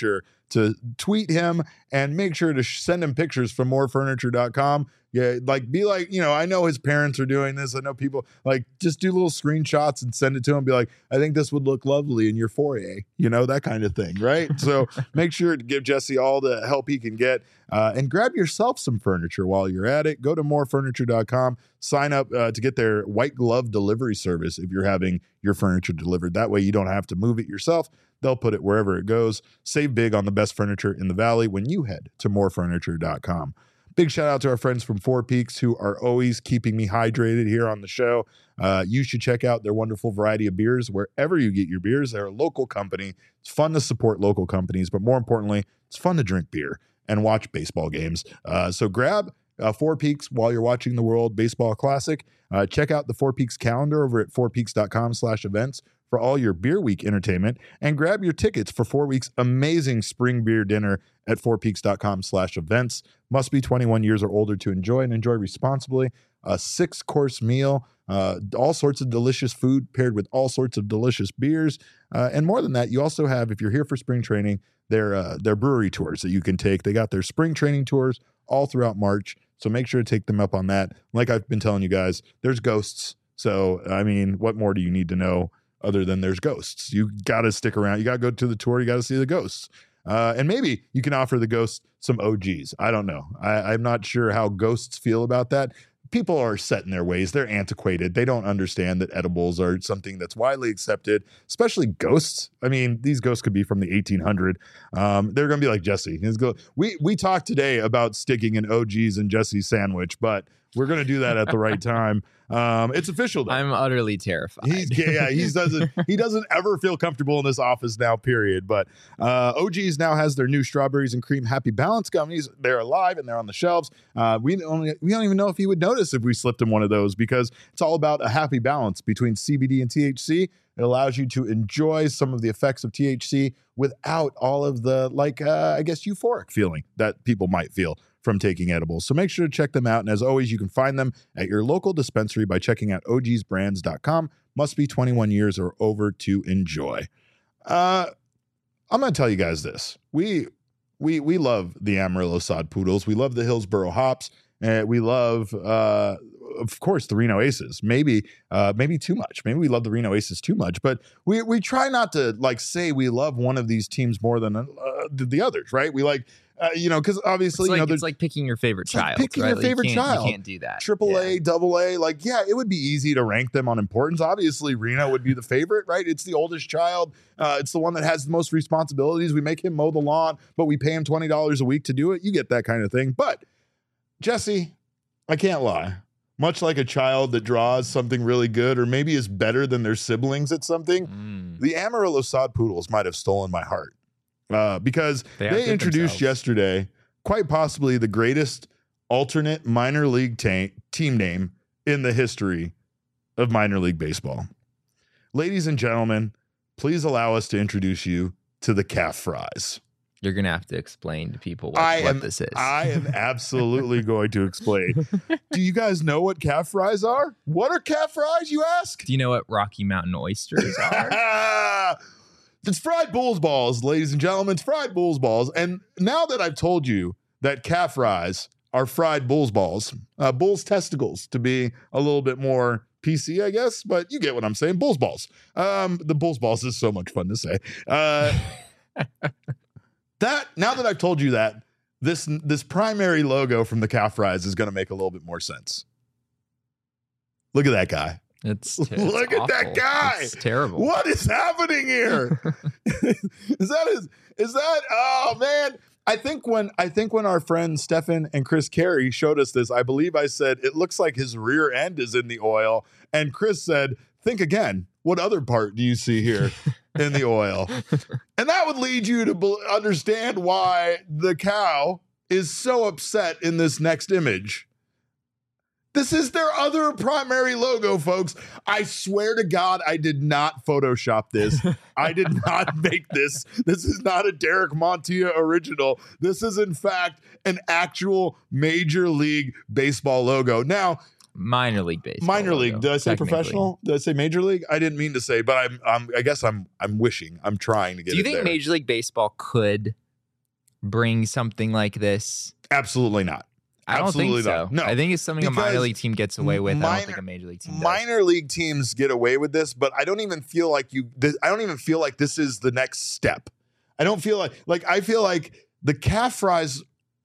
to tweet him and make sure to sh- send him pictures from more furniture dot com. Yeah, like be like, you know, I know his parents are doing this. I know people like just do little screenshots and send it to him. Be like, I think this would look lovely in your foyer, you know, that kind of thing, right? So make sure to give Jesse all the help he can get, uh, and grab yourself some furniture while you're at it. Go to more furniture dot com, sign up uh, to get their white glove delivery service if you're having your furniture delivered. That way you don't have to move it yourself. They'll put it wherever it goes. Save big on the best furniture in the valley when you head to more furniture dot com. Big shout out to our friends from Four Peaks who are always keeping me hydrated here on the show. Uh, you should check out their wonderful variety of beers wherever you get your beers. They're a local company. It's fun to support local companies, but more importantly, it's fun to drink beer and watch baseball games. Uh, so grab uh, Four Peaks while you're watching the World Baseball Classic. Uh, check out the Four Peaks calendar over at four peaks dot com slash events for all your Beer Week entertainment, and grab your tickets for four weeks amazing spring beer dinner at four peaks dot com slash events. Must be twenty-one years or older to enjoy, and enjoy responsibly. A six-course meal, uh, all sorts of delicious food paired with all sorts of delicious beers. Uh, and more than that, you also have, if you're here for spring training, their, uh, their brewery tours that you can take. They got their spring training tours all throughout March, so make sure to take them up on that. Like I've been telling you guys, there's ghosts. So, I mean, what more do you need to know other than there's ghosts? You got to stick around. You got to go to the tour. You got to see the ghosts. Uh, and maybe you can offer the ghosts some O Gs. I don't know. I, I'm not sure how ghosts feel about that. People are set in their ways. They're antiquated. They don't understand that edibles are something that's widely accepted, especially ghosts. I mean, these ghosts could be from the eighteen hundreds. Um, they're going to be like Jesse. He's go- we, we talked today about sticking an O Gs in Jesse's sandwich, but we're going to do that at the right time. Um, it's official though. I'm utterly terrified. He's yeah, he doesn't he doesn't ever feel comfortable in this office now, period. But uh O Gs now has their new strawberries and cream Happy Balance gummies. They're alive and they're on the shelves. Uh we only we don't even know if he would notice if we slipped him one of those, because it's all about a happy balance between C B D and T H C. It allows you to enjoy some of the effects of T H C without all of the, like, uh, I guess, euphoric feeling that people might feel from taking edibles. So make sure to check them out. And as always, you can find them at your local dispensary by checking out O Gs brands dot com. Must be twenty-one years or over to enjoy. Uh, I'm going to tell you guys this. We we we love the Amarillo Sod Poodles. We love the Hillsboro Hops. And we love, uh, of course, the Reno Aces. Maybe, uh, maybe too much. Maybe we love the Reno Aces too much. But we we try not to like say we love one of these teams more than uh, the others, right? We like, uh, you know, because obviously, it's like, you know, it's like picking your favorite child. Like picking right? your Like favorite you can't, child. You can't do that. Triple A, yeah. double A, like yeah, it would be easy to rank them on importance. Obviously, Reno would be the favorite, right? It's the oldest child. Uh, it's the one that has the most responsibilities. We make him mow the lawn, but we pay him twenty dollars a week to do it. You get that kind of thing. But Jesse, I can't lie. Much like a child that draws something really good or maybe is better than their siblings at something, mm. the Amarillo Sod Poodles might have stolen my heart uh, because they, they introduced themselves. yesterday quite possibly the greatest alternate minor league ta- team name in the history of minor league baseball. Ladies and gentlemen, please allow us to introduce you to the Calf Fries. You're going to have to explain to people what, I what am, this is. I am absolutely going to explain. Do you guys know what calf fries are? What are calf fries, you ask? Do you know what Rocky Mountain oysters are? It's fried bull's balls, ladies and gentlemen. It's fried bull's balls. And now that I've told you that calf fries are fried bull's balls, uh, bull's testicles, to be a little bit more P C, I guess, but you get what I'm saying. Bull's balls. Um, the bull's balls is so much fun to say. Uh That now that I've told you that, this this primary logo from the Calf Fries is going to make a little bit more sense. Look at that guy. It's, it's look awful. at that guy. It's terrible. What is happening here? is that is, is that oh man? I think when I think when our friends Stefan and Chris Carey showed us this, I believe I said it looks like his rear end is in the oil, and Chris said, "Think again. What other part do you see here?" in the oil. And that would lead you to be- understand why the cow is so upset in this next image. This is their other primary logo, folks. I swear to God, I did not Photoshop this. I did not make this. This is not a Derek Montilla original. This is, in fact, an actual Major League Baseball logo. Now, Minor league baseball. Minor logo, league. Did I say professional? Did I say major league? I didn't mean to say, but I'm, I'm I guess I'm I'm wishing. I'm trying to get it. Do you think there. Major League Baseball could bring something like this? Absolutely not. I don't Absolutely think so. not. No, I think it's something a minor because league team gets away with. minor- I don't think a major league team does. Minor league teams get away with this, but I don't even feel like you. This, I don't even feel like this is the next step. I don't feel like like I feel like the calf fries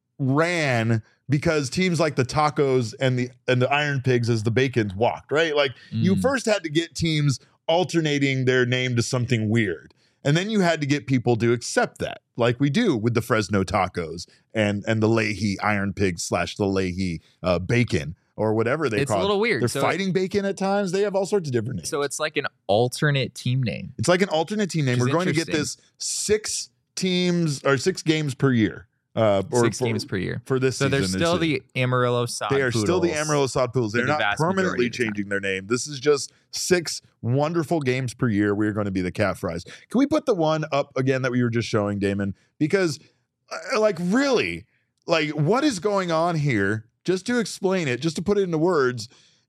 ran because teams like the Tacos and the and the Iron Pigs as the Bacons walked, right? Like mm. you first had to get teams alternating their name to something weird. And then you had to get people to accept that, like we do with the Fresno Tacos and and the Leahy Iron Pig slash the Leahy uh, Bacon or whatever they it's call it. It's a little weird. They're so fighting bacon at times. They have all sorts of different names. So it's like an alternate team name. It's like an alternate team name. We're going to get this six teams or six games per year. Uh, or six for, games per year for this so season. they're still the Amarillo Sod They are Poodles still the Amarillo Sod Poodles. They're the not permanently the changing their name. This is just six wonderful games per year. We're going to be the Calf Fries. Can we put the one up again that we were just showing, Damon? Because, uh, like, really, like, what is going on here? Just to explain it, just to put it into words,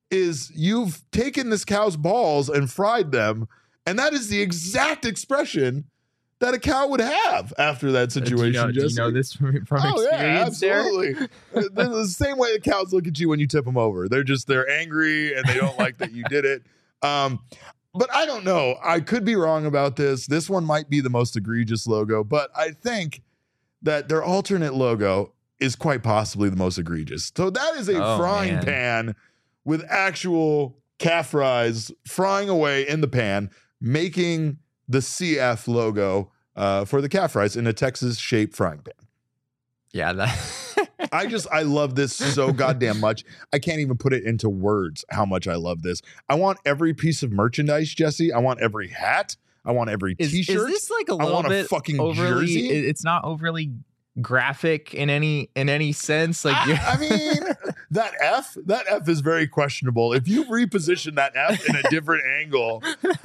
is you've taken this cow's balls and fried them, and that is the exact expression that a cow would have after that situation. Uh, do, you know, do you know this from, from oh, experience? Yeah, absolutely. The same way the cows look at you when you tip them over. They're just they're angry and they don't like that you did it. Um, but I don't know. I could be wrong about this. This one might be the most egregious logo, but I think that their alternate logo is quite possibly the most egregious. So that is a oh, frying man. pan with actual calf fries frying away in the pan, making the C F logo uh, for the calf fries in a Texas-shaped frying pan. Yeah, that I just I love this so goddamn much. I can't even put it into words how much I love this. I want every piece of merchandise, Jesse. I want every hat. I want every is, T-shirt. Is this like a I little want bit a fucking overly? jersey. It's not overly graphic in any in any sense. Like I, I mean, that F, that F is very questionable. If you reposition that F in a different angle,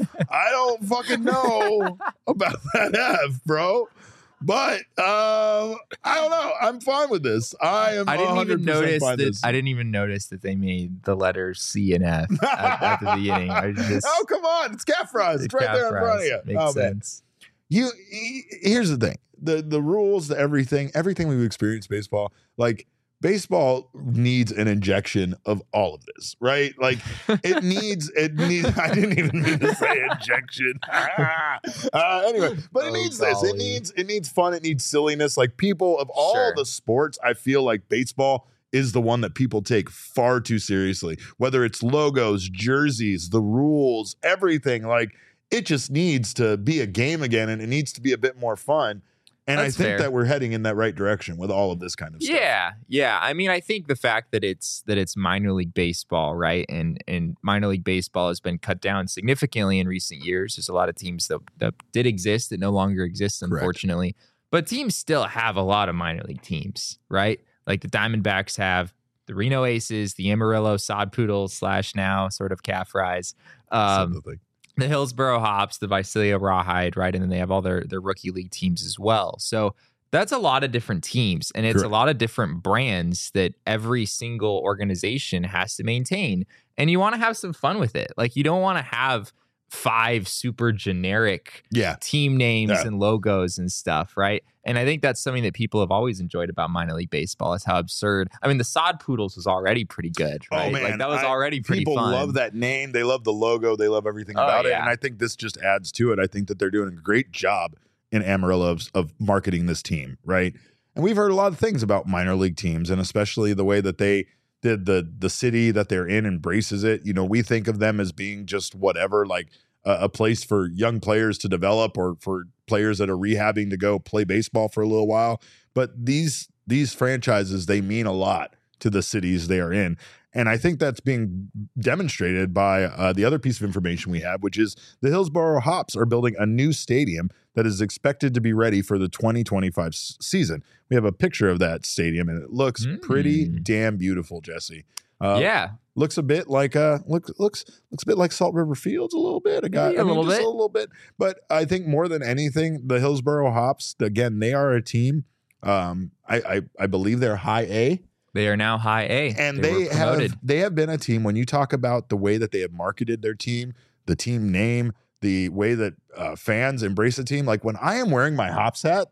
I don't fucking know about that F, bro. But um, I don't know. I'm fine with this. I am. I didn't even notice that. This. I didn't even notice that they made the letters C and F at, at the beginning. I just, oh come on! It's calf fries. It's right there in front of you. Makes oh, sense. Man. You. Here's the thing. The the rules, the everything, everything we've experienced baseball, like baseball needs an injection of all of this, right? Like it needs, it needs, I didn't even mean to say injection. uh, anyway, but it oh, needs golly. this. It needs, it needs fun. It needs silliness. Like people of all sure. the sports, I feel like baseball is the one that people take far too seriously, whether it's logos, jerseys, the rules, everything. Like it just needs to be a game again, and it needs to be a bit more fun. And That's I think fair. that we're heading in that right direction with all of this kind of stuff. Yeah, yeah. I mean, I think the fact that it's that it's minor league baseball, right? And and minor league baseball has been cut down significantly in recent years. There's a lot of teams that, that did exist that no longer exist, unfortunately. Correct. But teams still have a lot of minor league teams, right? Like the Diamondbacks have the Reno Aces, the Amarillo Sod Poodles slash now sort of calf fries. Um, the Hillsboro Hops, the Visalia Rawhide, right? And then they have all their, their rookie league teams as well. So that's a lot of different teams, and it's Correct. a lot of different brands that every single organization has to maintain. And you want to have some fun with it. Like you don't want to have five super generic yeah. team names yeah. and logos and stuff, right? And I think that's something that people have always enjoyed about minor league baseball is how absurd. I mean, the Sod Poodles was already pretty good, right? Oh, man. Like that was I, already pretty people fun. People love that name. They love the logo. They love everything about oh, yeah. it. And I think this just adds to it. I think that they're doing a great job in Amarillo of, of marketing this team, right? And we've heard a lot of things about minor league teams, and especially the way that they did the the city that they're in embraces it. You know, we think of them as being just whatever, like a, a place for young players to develop or for players that are rehabbing to go play baseball for a little while. But these these franchises, they mean a lot to the cities they are in. And I think that's being demonstrated by uh, the other piece of information we have, which is the Hillsboro Hops are building a new stadium that is expected to be ready for the twenty twenty-five s- season. We have a picture of that stadium, and it looks mm. pretty damn beautiful, Jesse. Uh, yeah, looks a bit like a look looks looks a bit like Salt River Fields a little bit. I got yeah, I mean, a little just bit, a little bit. But I think more than anything, the Hillsboro Hops, again, they are a team. Um, I I, I believe they're high A. They are now high A, and they, they have they have been a team. When you talk about the way that they have marketed their team, the team name, the way that uh, fans embrace the team. Like when I am wearing my Hops hat,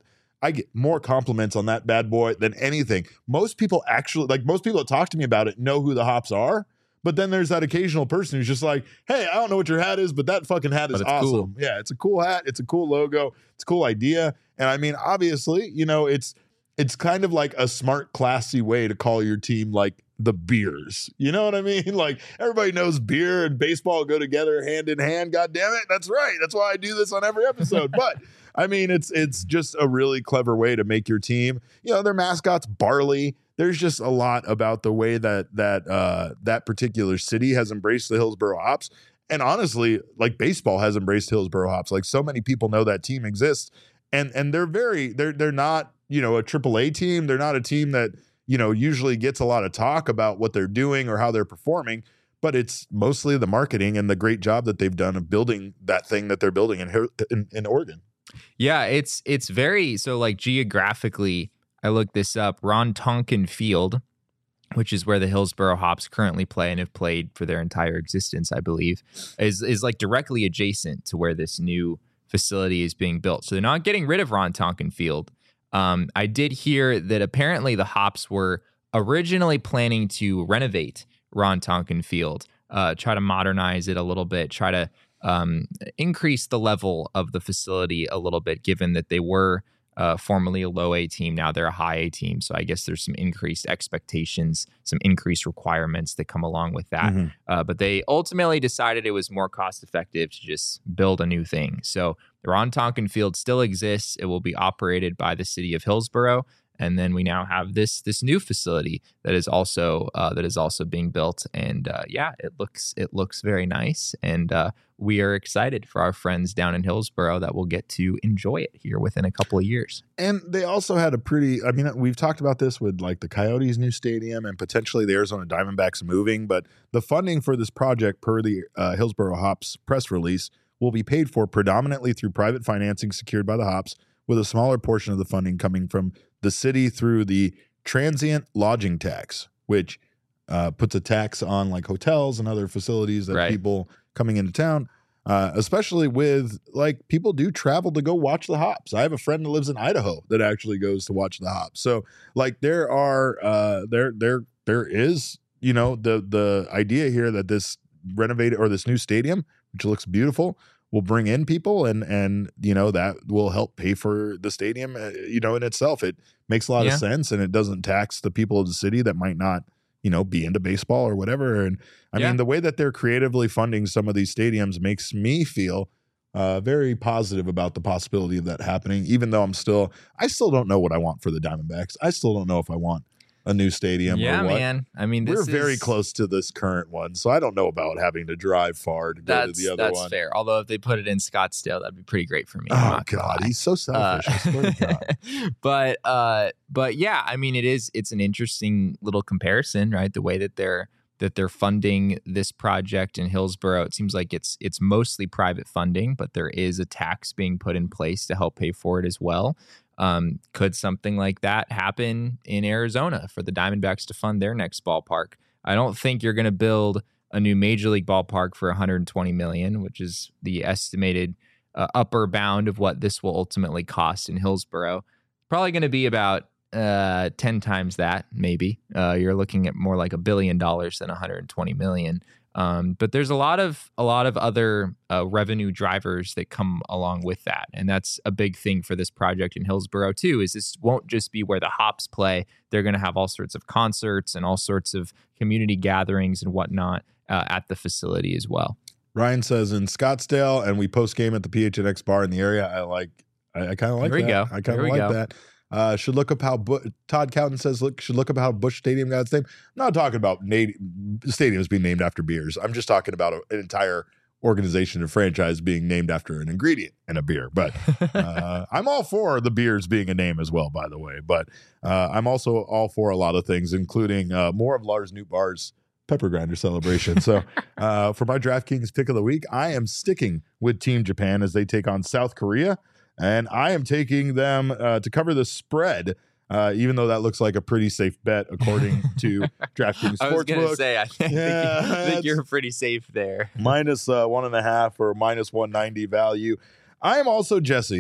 I get more compliments on that bad boy than anything. Most people actually, like most people that talk to me about it know who the hops are. But then there's that occasional person who's just like, hey, I don't know what your hat is, but that fucking hat is awesome. Cool. Yeah, it's a cool hat. It's a cool logo. It's a cool idea. And I mean, obviously, you know, it's it's kind of like a smart, classy way to call your team like the Beers. You know what I mean? Like everybody knows beer and baseball go together hand in hand. God damn it. That's right. That's why I do this on every episode. But I mean, it's it's just a really clever way to make your team. You know, their mascot's Barley. There's just a lot about the way that that uh, that particular city has embraced the Hillsboro Hops. And honestly, like baseball has embraced Hillsboro Hops. Like so many people know that team exists. And and they're very they're they're not, you know, a triple A team. They're not a team that, you know, usually gets a lot of talk about what they're doing or how they're performing, but it's mostly the marketing and the great job that they've done of building that thing that they're building in in, in Oregon. Yeah, it's it's very so like geographically. I looked this up. Ron Tonkin Field, which is where the Hillsboro Hops currently play and have played for their entire existence, I believe, is is like directly adjacent to where this new facility is being built. So they're not getting rid of Ron Tonkin Field. Um, I did hear that apparently the Hops were originally planning to renovate Ron Tonkin Field, uh, try to modernize it a little bit, try to um, increase the level of the facility a little bit, given that they were uh, formerly a low A team. Now they're a high A team. So I guess there's some increased expectations, some increased requirements that come along with that. Mm-hmm. Uh, but they ultimately decided it was more cost effective to just build a new thing. So the Ron Tonkin Field still exists. It will be operated by the city of Hillsboro. And then we now have this this new facility that is also uh, that is also being built, and uh, yeah, it looks it looks very nice, and uh, we are excited for our friends down in Hillsboro that will get to enjoy it here within a couple of years. And they also had a pretty, I mean, we've talked about this with like the Coyotes' new stadium and potentially the Arizona Diamondbacks moving, but the funding for this project, per the uh, Hillsboro Hops press release, will be paid for predominantly through private financing secured by the Hops, with a smaller portion of the funding coming from the city through the transient lodging tax, which uh, puts a tax on like hotels and other facilities that right. people coming into town, uh, especially with like people do travel to go watch the Hops. I have a friend that lives in Idaho that actually goes to watch the Hops. So like there are uh, there there there is, you know, the the idea here that this renovated or this new stadium, which looks beautiful, will bring in people, and and you know that will help pay for the stadium. Uh, you know, in itself, it makes a lot yeah. of sense, and it doesn't tax the people of the city that might not, you know, be into baseball or whatever. And I yeah. mean, the way that they're creatively funding some of these stadiums makes me feel uh, very positive about the possibility of that happening. Even though I'm still, I still don't know what I want for the Diamondbacks. I still don't know if I want a new stadium yeah, or what. man. I mean, this we're is, very close to this current one, so I don't know about having to drive far to go to the other that's one. That's fair. Although if they put it in Scottsdale, that'd be pretty great for me. Oh God, he's so selfish. Uh, I swear to God. But uh, but yeah, I mean, it is. It's an interesting little comparison, right? The way that they're that they're funding this project in Hillsboro. It seems like it's it's mostly private funding, but there is a tax being put in place to help pay for it as well. Um, could something like that happen in Arizona for the Diamondbacks to fund their next ballpark? I don't think you're going to build a new major league ballpark for one hundred twenty million dollars, which is the estimated uh, upper bound of what this will ultimately cost in Hillsboro. Probably going to be about uh, ten times that, maybe. Uh, you're looking at more like a billion dollars than one hundred twenty million dollars. Um, but there's a lot of a lot of other uh, revenue drivers that come along with that, and that's a big thing for this project in Hillsboro too. Is this won't just be where the Hops play; they're going to have all sorts of concerts and all sorts of community gatherings and whatnot uh, at the facility as well. Ryan says in Scottsdale, and we post game at the P H N X bar in the area. I like, I, I kind of like Here we that. go. I kind of like go. that. Uh, should look up how Bu- Todd Cowden says look should look up how Busch Stadium got its name. I'm not talking about na- stadiums being named after beers. I'm just talking about a, an entire organization and franchise being named after an ingredient in a beer. But uh, I'm all for the beers being a name as well, by the way. But uh, I'm also all for a lot of things, including uh, more of Lars Nootbaar's pepper grinder celebration. So uh, for my DraftKings pick of the week, I am sticking with Team Japan as they take on South Korea. And I am taking them uh, to cover the spread, uh, even though that looks like a pretty safe bet according to DraftKings Sportsbook. I was going to say, I think, yeah, think, I think you're pretty safe there. Minus uh, one and a half or minus one ninety value. I am also, Jesse,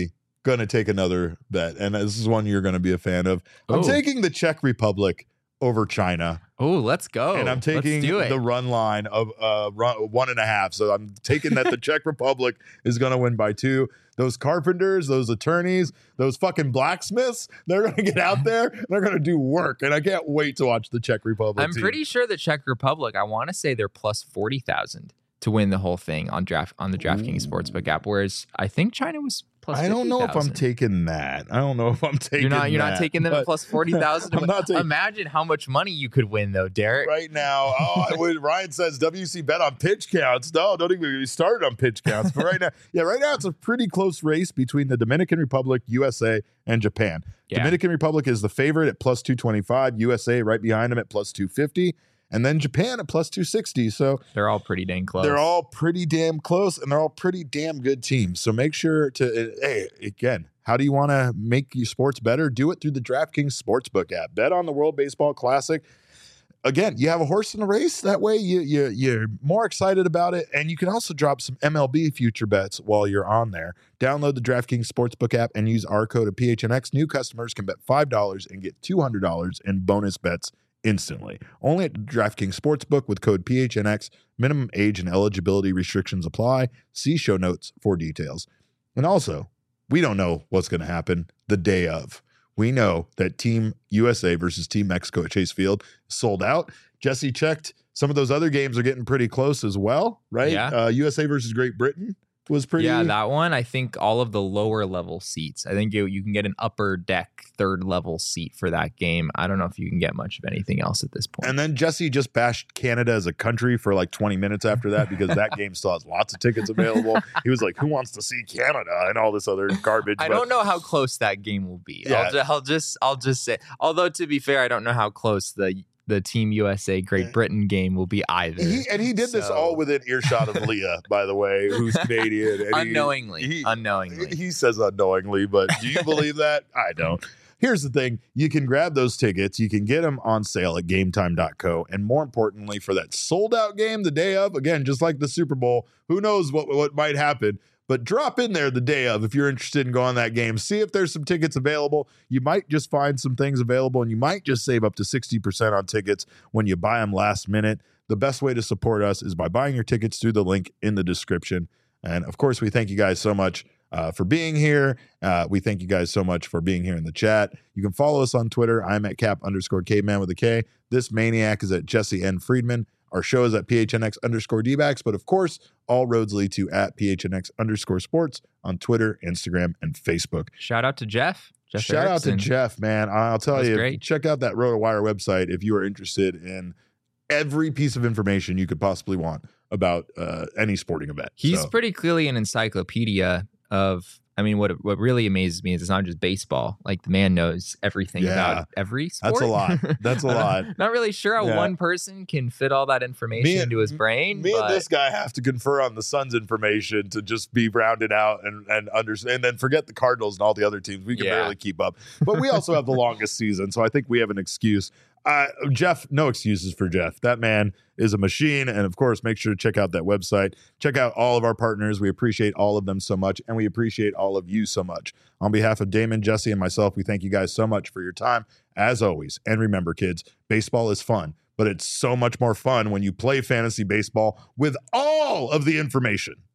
going to take another bet, and this is one you're going to be a fan of. I'm Oh. taking the Czech Republic over China. Oh, let's go. And I'm taking Let's do it. the run line of uh, run, one and a half. So I'm taking that the Czech Republic is going to win by two. Those carpenters, those attorneys, those fucking blacksmiths, they're going to get out there and they're going to do work. And I can't wait to watch the Czech Republic I'm team. pretty sure the Czech Republic, I want to say they're plus forty thousand to win the whole thing on draft on the DraftKings Sportsbook app, whereas I think China was plus I don't know if I'm fifty thousand. taking that. I don't know if I'm taking You're not. You're that, not taking them but at plus forty thousand. I'm not taking- Imagine how much money you could win, though, Derek. right now. Oh, I would, Ryan says W C bet on pitch counts. No, don't even get me started on pitch counts. But right now, yeah, right now it's a pretty close race between the Dominican Republic, U S A, and Japan. Yeah. Dominican Republic is the favorite at plus two twenty-five. U S A right behind them at plus two fifty. And then Japan at plus two sixty. So They're all pretty dang close. they're all pretty damn close, and they're all pretty damn good teams. So make sure to, uh, hey, again, how do you want to make your sports better? Do it through the DraftKings Sportsbook app. Bet on the World Baseball Classic. Again, you have a horse in the race. That way you, you, you're more excited about it. And you can also drop some M L B future bets while you're on there. Download the DraftKings Sportsbook app and use our code of P H N X. New customers can bet five dollars and get two hundred dollars in bonus bets instantly. Only at DraftKings Sportsbook with code P H N X. Minimum age and eligibility restrictions apply. See show notes for details. And also, we don't know what's going to happen the day of. We know that Team U S A versus Team Mexico at Chase Field is sold out. Jesse checked. Some of those other games are getting pretty close as well, right? Yeah. Uh, U S A versus Great Britain was pretty. Yeah, that one, I think all of the lower level seats. I think you, you can get an upper deck third level seat for that game. I don't know if you can get much of anything else at this point. And then Jesse just bashed Canada as a country for like twenty minutes after that because that game still has lots of tickets available. He was like, who wants to see Canada and all this other garbage? I But don't know how close that game will be. Yeah. I'll, ju- I'll just I'll just say, although to be fair, I don't know how close the the Team U S A Great Britain game will be either. He, and he did this So- all within earshot of Leah, by the way, who's Canadian. And he- unknowingly, he- unknowingly. He says unknowingly, but do you believe that? I don't. Here's the thing. You can grab those tickets. You can get them on sale at game time dot co. And more importantly, for that sold out game the day of, again, just like the Super Bowl, who knows what, what might happen. But drop in there the day of if you're interested in going that game. See if there's some tickets available. You might just find some things available, and you might just save up to sixty percent on tickets when you buy them last minute. The best way to support us is by buying your tickets through the link in the description. And of course, we thank you guys so much uh, for being here. Uh, we thank you guys so much for being here in the chat. You can follow us on Twitter. I'm at cap underscore caveman with a K. This maniac is at Jesse N. Friedman. Our show is at P H N X underscore D-backs, but of course, all roads lead to at P H N X underscore sports on Twitter, Instagram, and Facebook. Shout out to Jeff. Jeff Shout Erickson. out to Jeff, man. I'll tell That was you, great. check out that RotoWire website if you are interested in every piece of information you could possibly want about uh, any sporting event. He's So, pretty clearly an encyclopedia of. I mean, what what really amazes me is it's not just baseball. Like the man knows everything Yeah. about every sport. That's a lot. That's a I'm lot. Not really sure how Yeah. one person can fit all that information Me and- into his brain. Me but and this guy have to confer on the Suns information to just be rounded out and and understand, and then forget the Cardinals and all the other teams. We can Yeah. barely keep up, but we also have the longest season, so I think we have an excuse. Uh, Jeff, no excuses for Jeff. That man is a machine, and of course, make sure to check out that website. Check out all of our partners. We appreciate all of them so much, and we appreciate all of you so much. On behalf of Damon, Jesse, and myself, we thank you guys so much for your time, as always. And remember, kids, baseball is fun, but it's so much more fun when you play fantasy baseball with all of the information.